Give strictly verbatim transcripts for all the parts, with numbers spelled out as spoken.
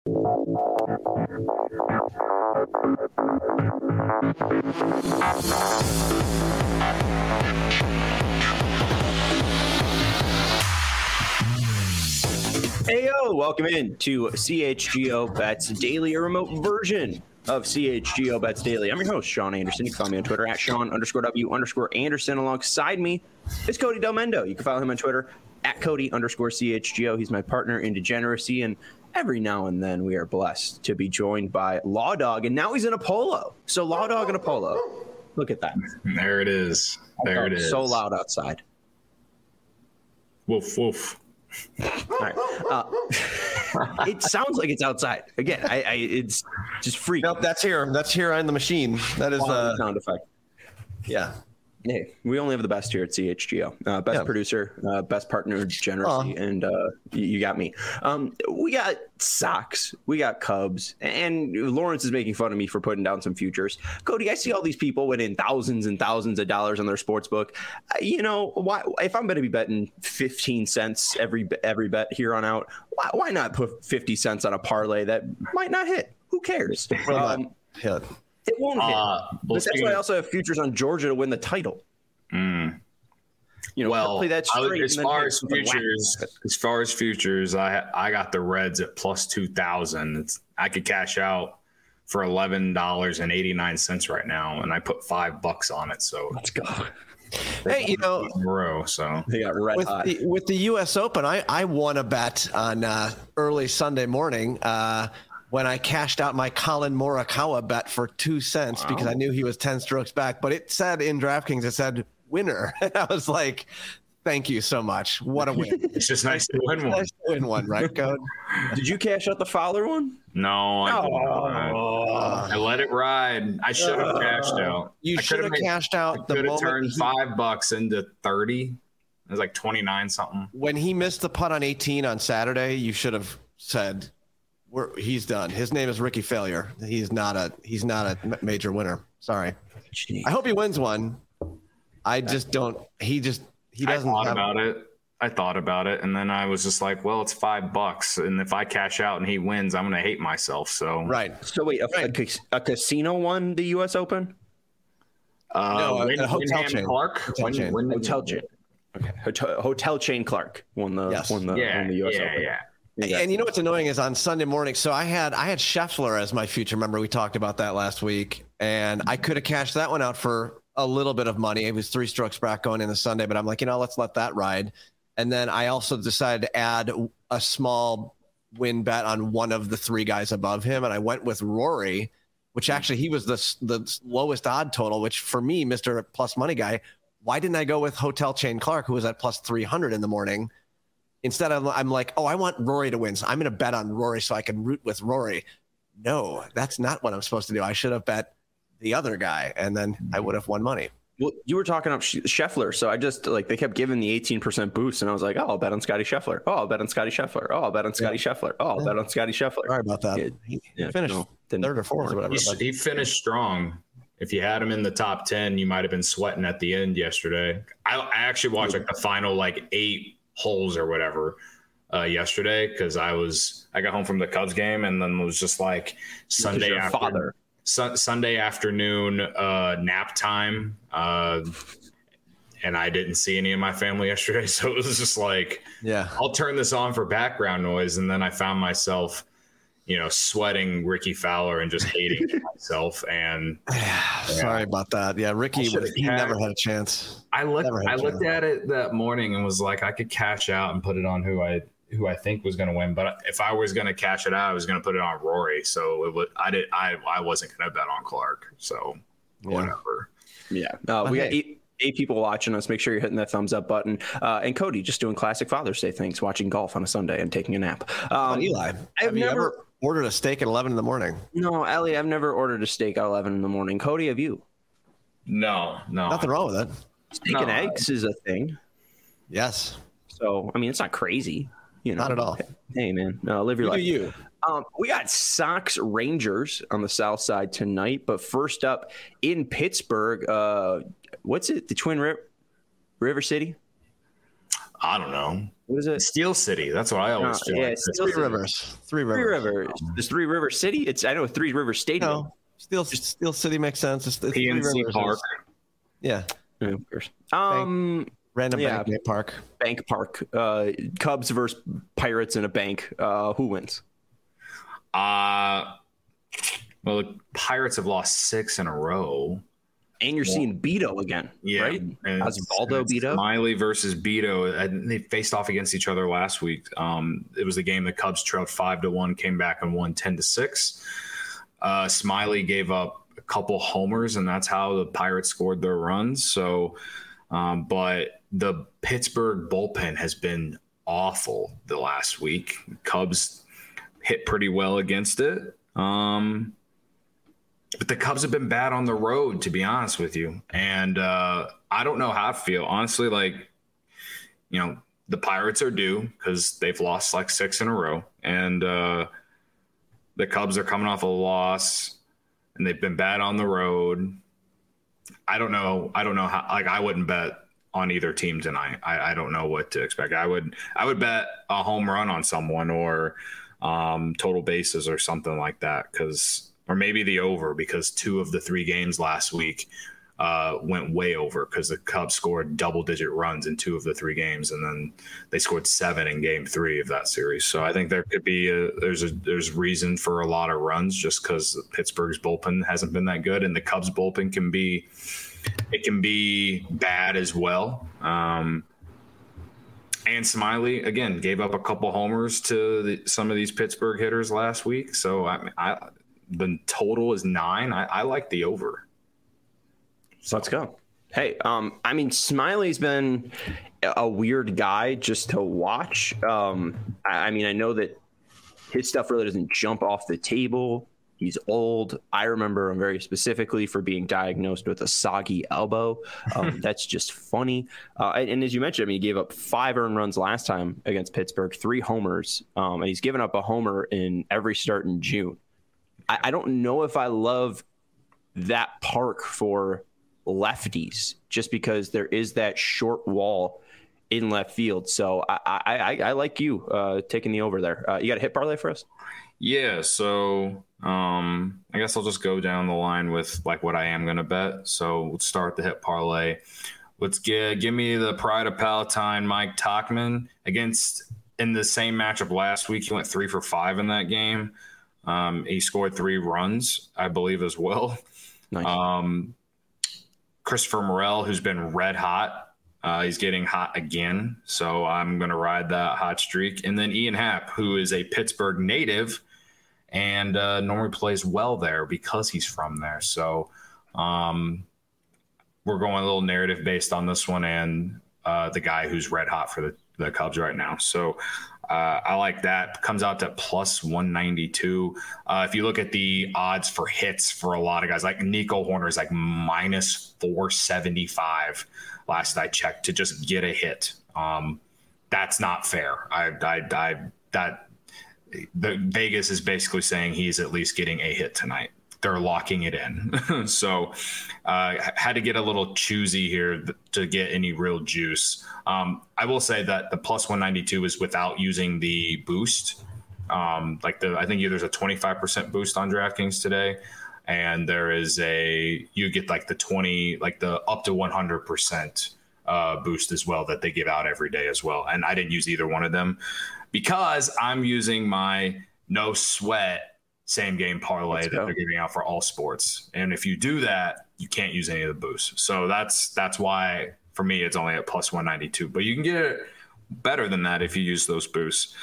Heyo, welcome in to C H G O Bets Daily, a remote version of C H G O Bets Daily. I'm your host, Sean Anderson. You can follow me on Twitter at Sean underscore W underscore Anderson. Alongside me is Cody Del Mendo. You can follow him on Twitter at Cody underscore C H G O. He's my partner in degeneracy, and every now and then we are blessed to be joined by Law Dog, and now he's in a polo. So Law Dog in a polo. Look at that. There it is. There it is. So loud outside. Woof, woof. All right. Uh, it sounds like it's outside. Again, I, I it's just freaky. Nope, that's here. That's here on the machine. That is uh, uh, sound effect. Yeah. Hey, we only have the best here at C H G O. Uh, best yeah. producer, uh, best partner, generosity, uh, and uh, you, you got me. Um, we got Sox, we got Cubs, and Lawrence is making fun of me for putting down some futures. Cody, I see all these people winning thousands and thousands of dollars on their sports book. Uh, you know, why? If I'm going to be betting fifteen cents every every bet here on out, why, why not put fifty cents on a parlay that might not hit? Who cares? Um, hit. It won't hit. Uh, well, but that's why I also have futures on Georgia to win the title. Mm. You know, well, play that straight as far as futures, as far as futures, I I got the Reds at plus two thousand. It's I could cash out for eleven dollars and eighty nine cents right now, and I put five bucks on it. So let's go. Hey, you know, in a row, so they got red with hot. the, with the U S Open, I I won a bet on uh, early Sunday morning. Uh, when I cashed out my Colin Morikawa bet for two cents wow. because I knew he was ten strokes back. But it said in DraftKings, it said winner. And I was like, thank you so much. What a win. It's just nice to win one. Nice to win one, right, Code? Did you cash out the Fowler one? No, I, oh. I let it ride. I should have cashed out. You should have cashed out I the moment. Turned he, five bucks into thirty. It was like twenty-nine something. When he missed the putt on eighteen on Saturday, you should have said, We're, he's done. His name is Ricky Failure. He's not a he's not a major winner. Sorry. Jeez. I hope he wins one. I just don't. He just he doesn't. I thought have, about it. I thought about it, and then I was just like, "Well, it's five bucks, and if I cash out and he wins, I'm going to hate myself." So right. So wait, a, right. a, a casino won the U S Open? Uh, no, Win, a hotel chain. Clark. Hotel Win, chain. Win, hotel chain. Okay. Hotel, hotel chain Clark won the yes. won the, yeah, won the U S yeah, Open. Yeah. Exactly. And you know what's annoying is on Sunday morning. So I had I had Scheffler as my future. Remember we talked about that last week, and I could have cashed that one out for a little bit of money. It was three strokes back going into Sunday, but I'm like, you know, let's let that ride. And then I also decided to add a small win bet on one of the three guys above him, and I went with Rory, which actually he was the the lowest odd total. Which for me, Mister Plus Money guy, why didn't I go with Hotel Chain Clark, who was at plus three hundred in the morning? Instead, I'm, I'm like, oh, I want Rory to win. So I'm going to bet on Rory so I can root with Rory. No, that's not what I'm supposed to do. I should have bet the other guy, and then I would have won money. Well, you were talking up Scheffler, so I just like they kept giving the eighteen percent boost, and I was like, oh, I'll bet on Scotty Scheffler. Oh, I'll bet on Scotty Scheffler. Oh, I'll bet on Scotty yeah. Scheffler. Oh, I'll yeah. bet on Scotty Scheffler. Sorry about that. Yeah, he yeah, finished no, third or fourth or whatever. He, he finished strong. If you had him in the top ten, you might have been sweating at the end yesterday. I, I actually watched like the final like eight holes or whatever. Uh, yesterday because I was I got home from the Cubs game and then was just like Sunday after, father. Su- Sunday afternoon uh, nap time uh, and I didn't see any of my family yesterday, so it was just like yeah I'll turn this on for background noise, and then I found myself you know sweating Ricky Fowler and just hating myself. And yeah, sorry about that. Yeah, Ricky was, he had, never had a chance. I looked I looked at it that morning and was like I could cash out and put it on who I who I think was going to win, but if I was going to cash it out, I was going to put it on Rory. So it would, I did, I, I wasn't going to bet on Clark. So yeah. whatever. Yeah. Uh, we got eight, eight people watching us. Make sure you're hitting that thumbs up button. Uh, and Cody just doing classic Father's Day things, watching golf on a Sunday and taking a nap. Um, Eli, I've have you never ever ordered a steak at eleven in the morning? No, Ellie, I've never ordered a steak at eleven in the morning. Cody, have you? No, no. Nothing wrong with it. Steak no, and eggs is a thing. Yes. So, I mean, it's not crazy. You know, not at all. Hey, man, no, live your you life. Do you? Um, we got Sox Rangers on the south side tonight, but first up in Pittsburgh, uh, what's it? The Twin River, River City? I don't know. What is it? Steel City. That's what I always No, feel yeah, like. Steel Three City. Rivers. Three Rivers. Three Rivers. There's Three River City. It's I know Three River Stadium. No, Steel Steel City makes sense. It's, it's P N C Park. Yeah. Yeah, of course. Um, Random yeah. bank park. Bank Park. Uh, Cubs versus Pirates in a bank. Uh, who wins? Uh, well, the Pirates have lost six in a row. And you're seeing Beto again, Yeah, right? and Osvaldo Beto. Smiley versus Beto. And they faced off against each other last week. Um, it was the game the Cubs trailed five to one, came back and won ten to six. Uh, Smiley gave up a couple homers, and that's how the Pirates scored their runs. So, um, but the Pittsburgh bullpen has been awful the last week. Cubs hit pretty well against it. Um, But the Cubs have been bad on the road, to be honest with you. And uh, I don't know how I feel. Honestly, like, you know, the Pirates are due because they've lost like six in a row. And uh, the Cubs are coming off a loss, and they've been bad on the road. I don't know. I don't know how – like, I wouldn't bet on either team tonight. I, I don't know what to expect. I would I would bet a home run on someone or um, total bases or something like that because – or maybe the over because two of the three games last week uh, went way over because the Cubs scored double-digit runs in two of the three games, and then they scored seven in Game Three of that series. So I think there could be a, there's a there's reason for a lot of runs just because Pittsburgh's bullpen hasn't been that good, and the Cubs bullpen can be it can be bad as well. Um, and Smiley again gave up a couple homers to the, some of these Pittsburgh hitters last week. So I, I the total is nine. I, I like the over. So let's go. Hey, um, I mean, Smiley's been a weird guy just to watch. Um, I, I mean, I know that his stuff really doesn't jump off the table. He's old. I remember him very specifically for being diagnosed with a soggy elbow. Um, that's just funny. Uh, and, and as you mentioned, I mean, he gave up five earned runs last time against Pittsburgh, three homers, um, and he's given up a homer in every start in June. I, I don't know if I love that park for lefties just because there is that short wall in left field. So I I, I, I like you uh, taking the over there. Uh, you got a hit parlay for us? Yeah. So um, I guess I'll just go down the line with like what I am going to bet. So let's start the hit parlay. Let's get, give me the Pride of Palatine, Mike Tauchman against in the same matchup last week. He went three for five in that game. Um, he scored three runs, I believe, as well. Nice. Um, Christopher Morel, who's been red hot. Uh, he's getting hot again. So I'm going to ride that hot streak. And then Ian Happ, who is a Pittsburgh native and uh, normally plays well there because he's from there. So um, we're going a little narrative based on this one and uh, the guy who's red hot for the, the Cubs right now. So Uh, I like that. Comes out to plus one ninety-two. Uh, if you look at the odds for hits for a lot of guys, like Nico Horner is like minus four seventy-five last I checked to just get a hit. Um, that's not fair. I, I, I, that the Vegas is basically saying he's at least getting a hit tonight. They're locking it in. So uh, had to get a little choosy here to get any real juice. Um, I will say that the plus one ninety-two is without using the boost. Um, like the, I think there's a twenty-five percent boost on DraftKings today. And there is a, you get like the twenty, like the up to one hundred percent uh, boost as well that they give out every day as well. And I didn't use either one of them because I'm using my no sweat same game parlay that they're giving out for all sports. And if you do that, you can't use any of the boosts. So that's that's why for me it's only at plus one ninety-two. But you can get it better than that if you use those boosts.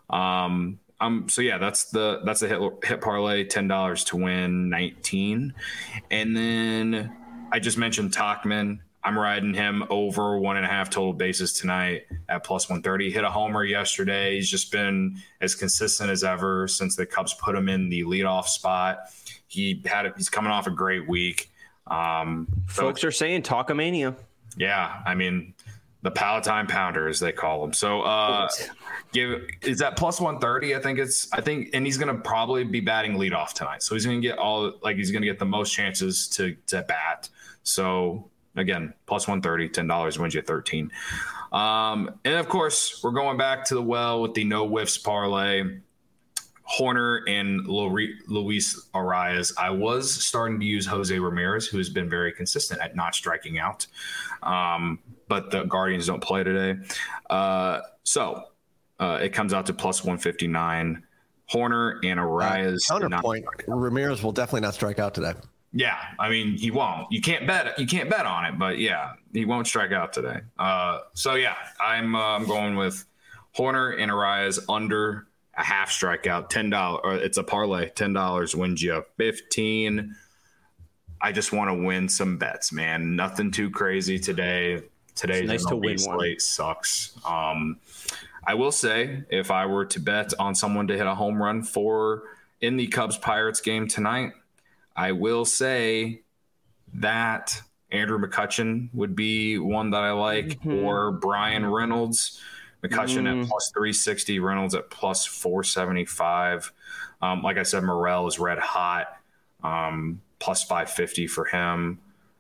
Um, um so yeah, that's the that's the hit hit parlay, ten dollars to win nineteen. And then I just mentioned Tauchman. I'm riding him over one and a half total bases tonight at plus one thirty. Hit a homer yesterday. He's just been as consistent as ever since the Cubs put him in the leadoff spot. He had a, he's coming off a great week. Um, Folks so, are saying Talkamania. Yeah, I mean the Palatine Pounder, as they call him. So uh, give is that plus one thirty? I think it's I think, and he's going to probably be batting leadoff tonight. So he's going to get all like he's going to get the most chances to to bat. So Again, plus one thirty, ten dollars wins you thirteen. Um, and of course, we're going back to the well with the no whiffs parlay. Horner and Luis Arias. I was starting to use Jose Ramirez, who has been very consistent at not striking out. Um, but the Guardians don't play today. Uh, so uh, it comes out to plus one fifty-nine. Horner and Arias. Uh, counterpoint, not- Ramirez will definitely not strike out today. Yeah, I mean, he won't. You can't bet. You can't bet on it, but yeah, he won't strike out today. Uh, so yeah, I'm uh, I'm going with Horner and Arias under a half strikeout, ten dollars. Or it's a parlay. Ten dollars wins you fifteen. I just want to win some bets, man. Nothing too crazy today. Today's nice to win slate one. Sucks. Um, I will say, if I were to bet on someone to hit a home run for in the Cubs Pirates game tonight, I will say that Andrew McCutchen would be one that I like, mm-hmm. or Brian Reynolds. McCutchen mm. at plus three sixty, Reynolds at plus four seventy-five. Um, like I said, Morel is red hot, um, plus five fifty for him.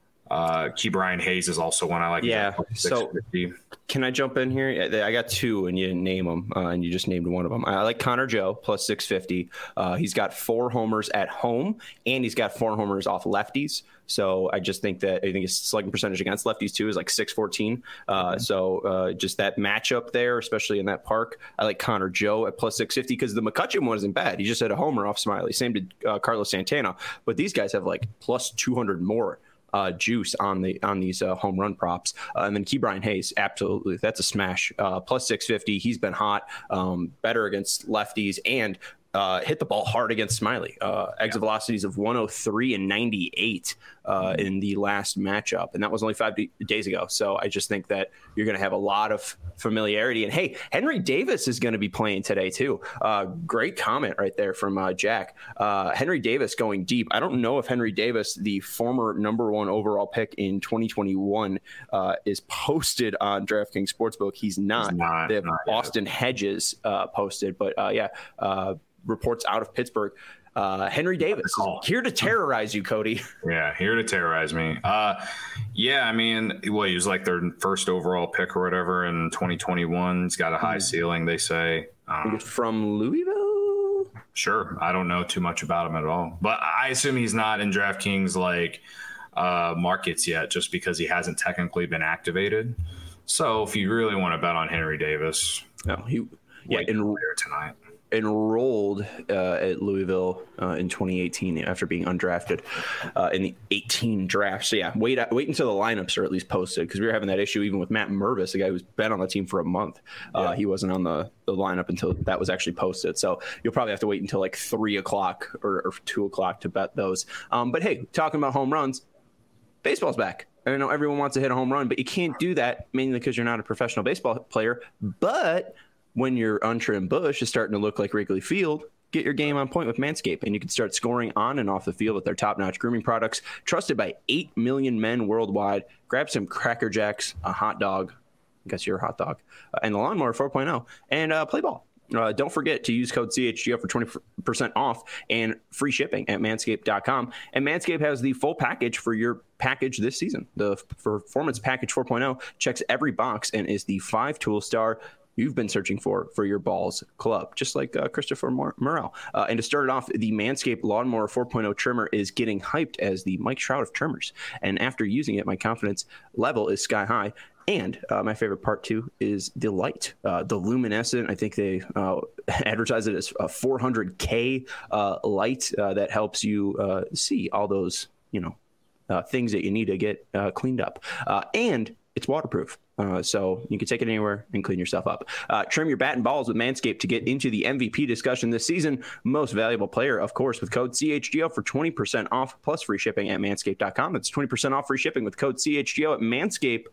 Uh, Key Brian Hayes is also one I like. Yeah. So can I jump in here? I got two and you didn't name them, uh, and you just named one of them. I like Connor Joe plus six fifty. Uh, he's got four homers at home, and he's got four homers off lefties. So I just think that I think his slugging percentage against lefties too is like six fourteen. Uh, mm-hmm. So uh, just that matchup there, especially in that park, I like Connor Joe at plus six fifty because the McCutchen wasn't bad. He just had a homer off Smiley. Same to uh, Carlos Santana, but these guys have like plus two hundred more. Uh, juice on the on these uh, home run props, uh, and then Key Brian Hayes, absolutely, that's a smash. Uh, plus six fifty, he's been hot, um, better against lefties, and uh, hit the ball hard against Smiley. Uh, exit yeah. velocities of one oh three and ninety-eight uh, mm-hmm. in the last matchup, and that was only five d- days ago. So I just think that you're going to have a lot of familiarity. And hey, Henry Davis is going to be playing today too. Uh, great comment right there from uh, Jack. Uh, Henry Davis going deep. I don't know if Henry Davis, the former number one overall pick in twenty twenty-one, uh, is posted on DraftKings Sportsbook. He's not. He's not they have not Austin yet. Hedges uh, posted, but uh, yeah, uh, reports out of Pittsburgh. Uh, Henry Davis here to terrorize you, Cody. Yeah, here to terrorize me. Uh, yeah, I mean, well, he was like their first overall pick or whatever in twenty twenty-one. He's got a high mm-hmm. ceiling, they say. Um, from Louisville? Sure. I don't know too much about him at all. But I assume he's not in DraftKings like uh, markets yet just because he hasn't technically been activated. So if you really want to bet on Henry Davis, no, he yeah, in, tonight. enrolled uh, at Louisville uh, in twenty eighteen after being undrafted uh, in the eighteen draft. So yeah, wait wait until the lineups are at least posted because we were having that issue even with Matt Mervis, a guy who's been on the team for a month. Uh, yeah. He wasn't on the, the lineup until that was actually posted. So you'll probably have to wait until like three o'clock or, or two o'clock to bet those. Um, but hey, talking about home runs, baseball's back. I know everyone wants to hit a home run, but you can't do that mainly because you're not a professional baseball player. But when your untrimmed bush is starting to look like Wrigley Field, get your game on point with Manscaped, and you can start scoring on and off the field with their top-notch grooming products, trusted by eight million men worldwide. Grab some Cracker Jacks, a hot dog, I guess you're a hot dog, uh, and the Lawnmower four point oh, and uh, play ball. Uh, don't forget to use code C H G O for twenty percent off and free shipping at manscaped dot com. And Manscaped has the full package for your package this season. The Performance Package four point oh checks every box and is the five-tool star you've been searching for for your balls club, just like uh, Christopher Morel. Uh, and to start it off, the Manscaped Lawnmower four point oh trimmer is getting hyped as the Mike Trout of trimmers. And after using it, my confidence level is sky high. And uh, my favorite part, too, is the light, uh, the luminescent. I think they uh, advertise it as a four hundred K uh, light uh, that helps you uh, see all those, you know, uh, things that you need to get uh, cleaned up. Uh, and it's waterproof. Uh, so you can take it anywhere and clean yourself up. Uh, trim your bat and balls with Manscaped to get into the M V P discussion this season. Most valuable player, of course, with code C H G O for twenty percent off plus free shipping at manscaped dot com. That's twenty percent off free shipping with code C H G O at manscaped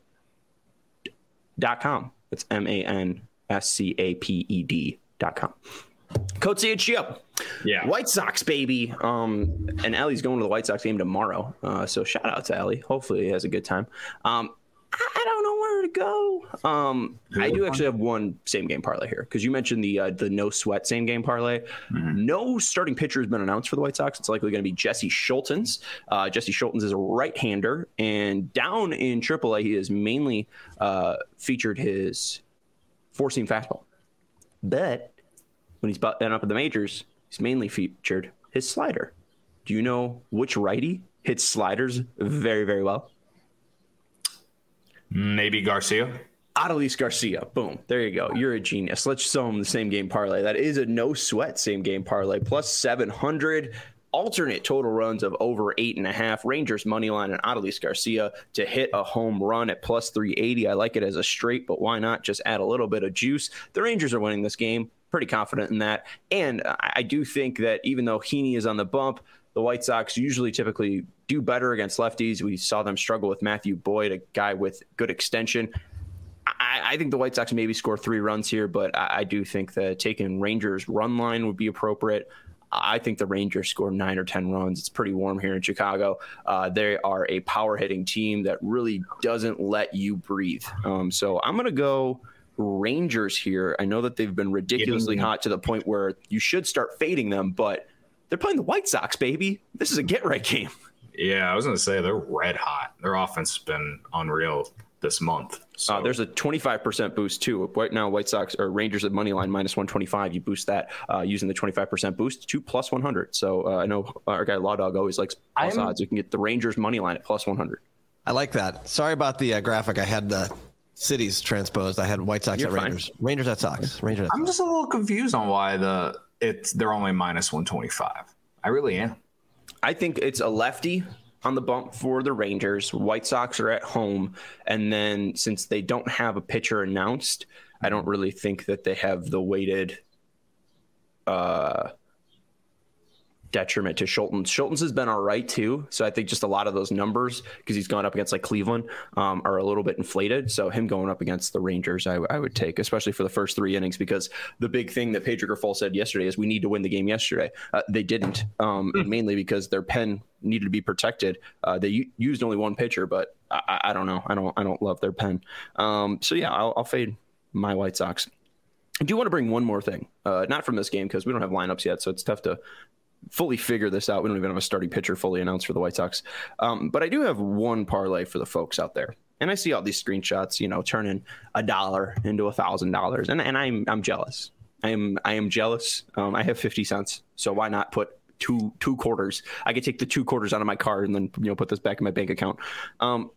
dot com. That's M A N S C A P E D dot com. Code C H G O. Yeah. White Sox, baby. Um, and Ellie's going to the White Sox game tomorrow. Uh, so shout out to Ellie. Hopefully he has a good time. Um, I don't know where to to go. Um, I do actually have one same game parlay here because you mentioned the uh, the no sweat same game parlay. Mm-hmm. No starting pitcher has been announced for the White Sox. It's likely going to be Jesse Schultens. Uh, Jesse Schultens is a right-hander, and down in triple A, he has mainly uh, featured his four-seam fastball. But when he's been up in the majors, he's mainly featured his slider. Do you know which righty hits sliders very, very well? Maybe Garcia. Adolis Garcia. Boom. There you go. You're a genius. Let's show him the same game parlay. That is a no sweat same game parlay. Plus seven hundred. Alternate total runs of over eight and a half. Rangers money line and Adolis Garcia to hit a home run at plus three eighty. I like it as a straight, but why not just add a little bit of juice? The Rangers are winning this game. Pretty confident in that. And I do think that even though Heaney is on the bump, the White Sox usually typically do better against lefties. We saw them struggle with Matthew Boyd, a guy with good extension. I, I think the White Sox maybe score three runs here, but I, I do think that taking Rangers run line would be appropriate. I think the Rangers score nine or ten runs. It's pretty warm here in Chicago. Uh, they are a power hitting team that really doesn't let you breathe. Um, so I'm going to go Rangers here. I know that they've been ridiculously hot to the point where you should start fading them, but they're playing the White Sox, baby. This is a get-right game. Yeah, I was going to say they're red hot. Their offense has been unreal this month. So. Uh, there's a twenty-five percent boost, too. Right now, White Sox or Rangers at money line minus one twenty-five. You boost that uh, using the twenty-five percent boost to plus one hundred. So uh, I know our guy Law Dog always likes plus I'm, odds. You can get the Rangers money line at plus one hundred. I like that. Sorry about the uh, graphic. I had the cities transposed. I had White Sox You're at fine. Rangers. Rangers at Sox. Rangers at I'm Sox. just a little confused on why the it's they're only minus one twenty-five. I really am. I think it's a lefty on the bump for the Rangers. White Sox are at home. And then since they don't have a pitcher announced, I don't really think that they have the weighted uh, detriment to Schultens. Schultens has been all right, too. So I think just a lot of those numbers, because he's gone up against like Cleveland, um, are a little bit inflated. So him going up against the Rangers, I, I would take, especially for the first three innings, because the big thing that Pedro Grifol said yesterday is we need to win the game yesterday. Uh, they didn't, um, mm. mainly because their pen needed to be protected. Uh, they u- used only one pitcher, but I, I don't know. I don't I don't love their pen. Um, so, yeah, I'll, I'll fade my White Sox. I do want to bring one more thing, uh, not from this game because we don't have lineups yet, so it's tough to fully figure this out. We don't even have a starting pitcher fully announced for the White Sox. Um, but I do have one parlay for the folks out there. And I see all these screenshots, you know, turning a dollar into a thousand dollars. And and I'm I'm jealous. I am I am jealous. Um, I have fifty cents. So why not put two two quarters? I could take the two quarters out of my card and then, you know, put this back in my bank account. Um,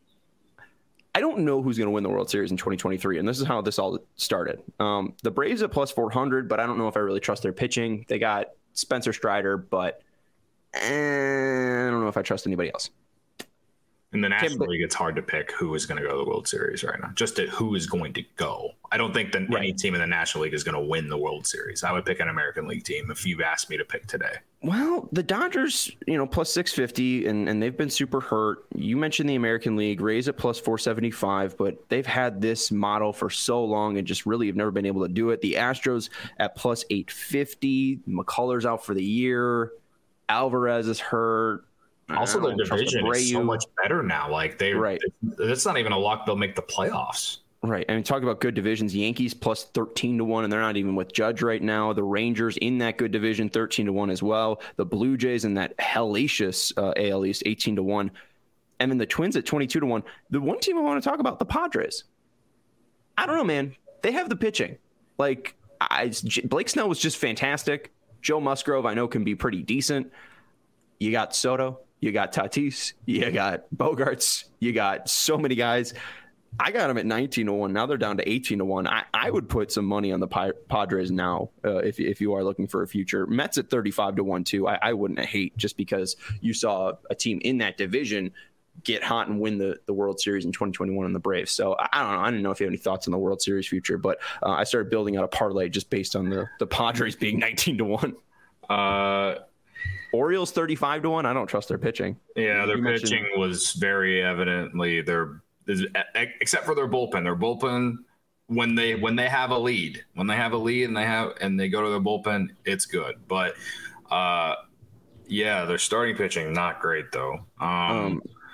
I don't know who's going to win the World Series in twenty twenty-three, and this is how this all started. Um, the Braves at plus four hundred, but I don't know if I really trust their pitching. They got Spencer Strider, but eh, I don't know if I trust anybody else. In the National League, it's hard to pick who is going to go to the World Series right now. Just at who is going to go. I don't think that right. any team in the National League is going to win the World Series. I would pick an American League team if you've asked me to pick today. Well, the Dodgers, you know, plus six fifty, and, and they've been super hurt. You mentioned the American League, Rays at plus four seventy-five, but they've had this model for so long and just really have never been able to do it. The Astros at plus eight fifty. McCullers out for the year. Alvarez is hurt. Also, the division is so much better now. Like they, right. It's not even a lock they'll make the playoffs. Right. I mean, talk about good divisions. Yankees plus thirteen to one, and they're not even with Judge right now. The Rangers in that good division, thirteen to one as well. The Blue Jays in that hellacious uh, A L East, eighteen to one. And then the Twins at twenty-two to one. The one team I want to talk about, the Padres. I don't know, man. They have the pitching. Like, I, Blake Snell was just fantastic. Joe Musgrove, I know, can be pretty decent. You got Soto. You got Tatis, you got Bogarts, you got so many guys. I got them at nineteen to one. Now they're down to eighteen to one. I, I would put some money on the Padres now uh, if, if you are looking for a future. Mets at thirty-five to one, too. I, I wouldn't hate just because you saw a team in that division get hot and win the, the World Series in twenty twenty-one in the Braves. So I, I don't know. I didn't know if you have any thoughts on the World Series future, but uh, I started building out a parlay just based on the, the Padres being nineteen to one. Uh, Orioles thirty-five to one. I don't trust their pitching. Yeah, their pitching was very evidently their except for their bullpen. Their bullpen when they when they have a lead, when they have a lead and they have and they go to their bullpen, it's good. But uh, yeah, their starting pitching not great though. Um, um,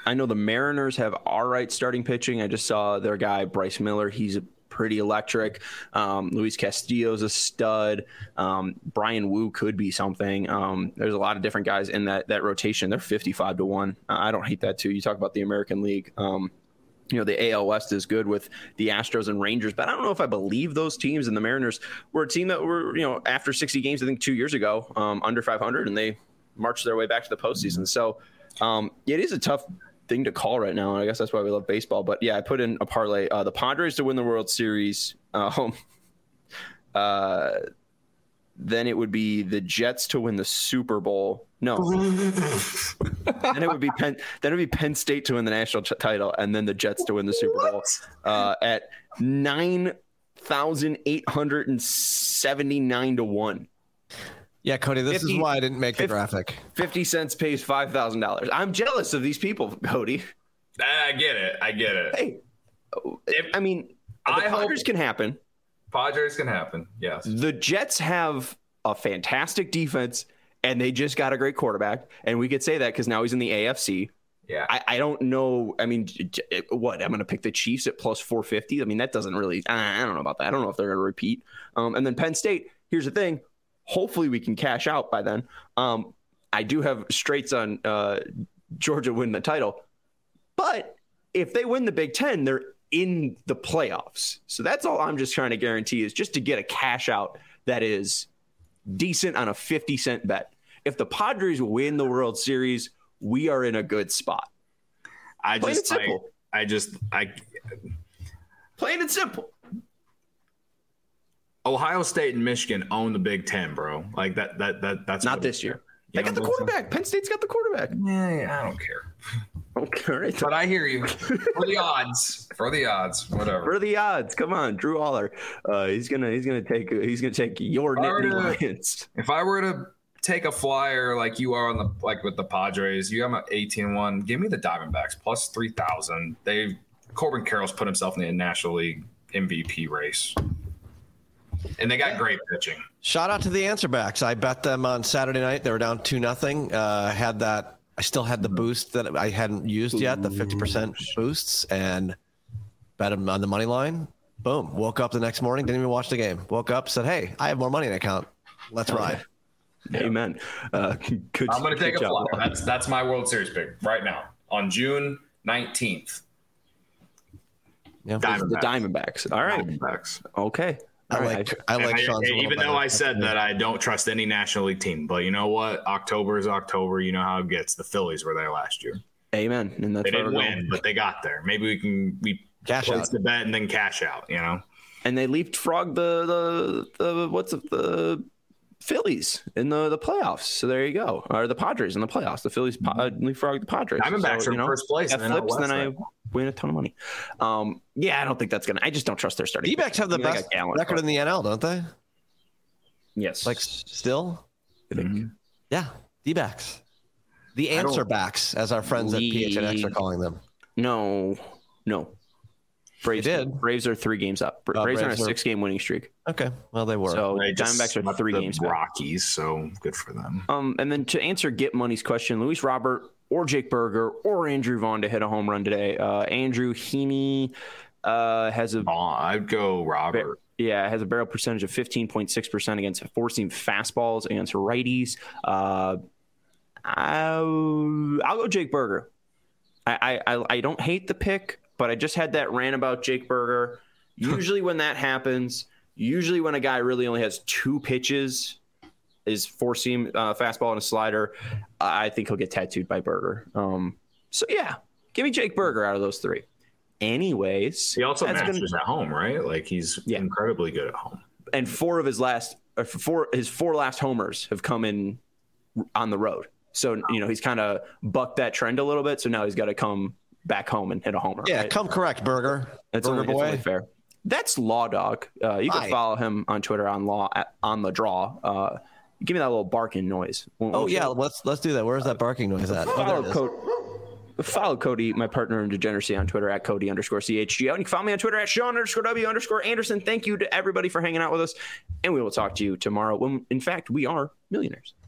I know the Mariners have all right starting pitching. I just saw their guy, Bryce Miller. He's pretty electric. Um, Luis Castillo's a stud. Um, Brian Wu could be something. Um, there's a lot of different guys in that that rotation. They're fifty-five to one. Uh, I don't hate that too. You talk about the American League. Um, you know, the A L West is good with the Astros and Rangers, but I don't know if I believe those teams. And the Mariners were a team that were, you know, after sixty games, I think two years ago, um, under five hundred, and they marched their way back to the postseason. So um, it is a tough thing to call right now. And I guess that's why we love baseball. But yeah, I put in a parlay, uh, the Padres to win the World Series. Um, uh, then it would be the Jets to win the Super Bowl. No, then it would be Penn. Then it would be Penn State to win the national ch- title, and then the Jets to win the Super Bowl uh, at nine thousand eight hundred and seventy-nine to one. Yeah, Cody, this fifty, is why I didn't make the fifty, graphic. Fifty cents pays five thousand dollars. I'm jealous of these people, Cody. I get it. I get it. Hey, if, I mean, the I Padres can happen. Padres can happen. Yes. The Jets have a fantastic defense. And they just got a great quarterback. And we could say that because now he's in the A F C. Yeah. I, I don't know. I mean, what? I'm going to pick the Chiefs at plus four fifty. I mean, that doesn't really – I don't know about that. I don't know if they're going to repeat. Um, and then Penn State, here's the thing. Hopefully we can cash out by then. Um, I do have straights on uh, Georgia win the title. But if they win the Big Ten, they're in the playoffs. So that's all I'm just trying to guarantee is just to get a cash out that is decent on a fifty cent bet. If the Padres win the World Series, we are in a good spot. I Plain just, I, I just, I. Plain and simple. Ohio State and Michigan own the Big Ten, bro. Like that, that, that. That's not this year. They got the quarterback. Penn State's got the quarterback. Yeah, I don't care. Okay, but I hear you. For the odds, for the odds, whatever. For the odds, come on, Drew Aller. Uh, he's gonna, he's gonna take, he's gonna take your Nittany Lions. If I were to take a flyer like you are on the like with the Padres, you have an eighteen one. Give me the Diamondbacks plus three thousand. They Corbin Carroll's put himself in the National League M V P race, and they got great pitching. Shout out to the answer backs. I bet them on Saturday night. They were down two nothing. Uh, had that. I still had the boost that I hadn't used yet, the fifty percent boosts, and bet them on the money line. Boom. Woke up the next morning, didn't even watch the game. Woke up, said, hey, I have more money in the account. Let's ride. Amen. Uh, good, I'm going to take a flyer. That's, that's my World Series pick right now on June nineteenth. Yeah. The Diamondbacks. All right. Diamondbacks. Okay. I like, right. I like Sean's I, even though I said that I don't trust any National League team, but you know what? October is October. You know how it gets. The Phillies were there last year. Amen. And that's they didn't win, going. But they got there. Maybe we can we cash place out the bet and then cash out. You know. And they leapfrogged the the the what's it, the Phillies in the, the playoffs. So there you go. Or the Padres in the playoffs. The Phillies uh, leapfrogged the Padres. Diamondbacks so, are in know, first place. That and flips, then I win a ton of money. Um, yeah, I don't think that's gonna. I just don't trust their starting. D-backs have the best record in the N L, don't they? Yes. Like still? Mm-hmm. Yeah, D-backs. The answer backs, as our friends lead. at P H N X are calling them. No, no. Braves they did. Braves are three games up. Braves, uh, Braves are on a six-game winning streak. Okay, well they were. So they Diamondbacks are three games back. Rockies, so good for them. Um, and then to answer Get Money's question, Luis Robert or Jake Berger or Andrew Vaughn to hit a home run today. Uh, Andrew Heaney uh, has a. Oh, I'd go Robert. Yeah, has a barrel percentage of fifteen point six percent against four-seam fastballs against righties. Uh, I'll, I'll go Jake Berger. I, I I don't hate the pick, but I just had that rant about Jake Berger. Usually when that happens, usually when a guy really only has two pitches, is four-seam uh, fastball and a slider, I think he'll get tattooed by Berger. Um, so, yeah, give me Jake Berger out of those three. Anyways. He also masters gonna, at home, right? Like, he's yeah. incredibly good at home. And four of his last – four his four last homers have come in on the road. So, you know, he's kind of bucked that trend a little bit. So now he's got to come back home and hit a homer. Yeah, right? come correct, Berger. That's Berger only, boy. only fair. That's Law Dog. Uh, you can Hi. follow him on Twitter on Law at, on the Draw. Uh, give me that little barking noise. Won't, oh won't yeah, you? let's let's do that. Where's that barking noise at? Follow, oh, Co- follow Cody, my partner in degeneracy, on Twitter at Cody underscore C H G O. And you can follow me on Twitter at Sean underscore W underscore Anderson. Thank you to everybody for hanging out with us. And we will talk to you tomorrow when, in fact, we are millionaires.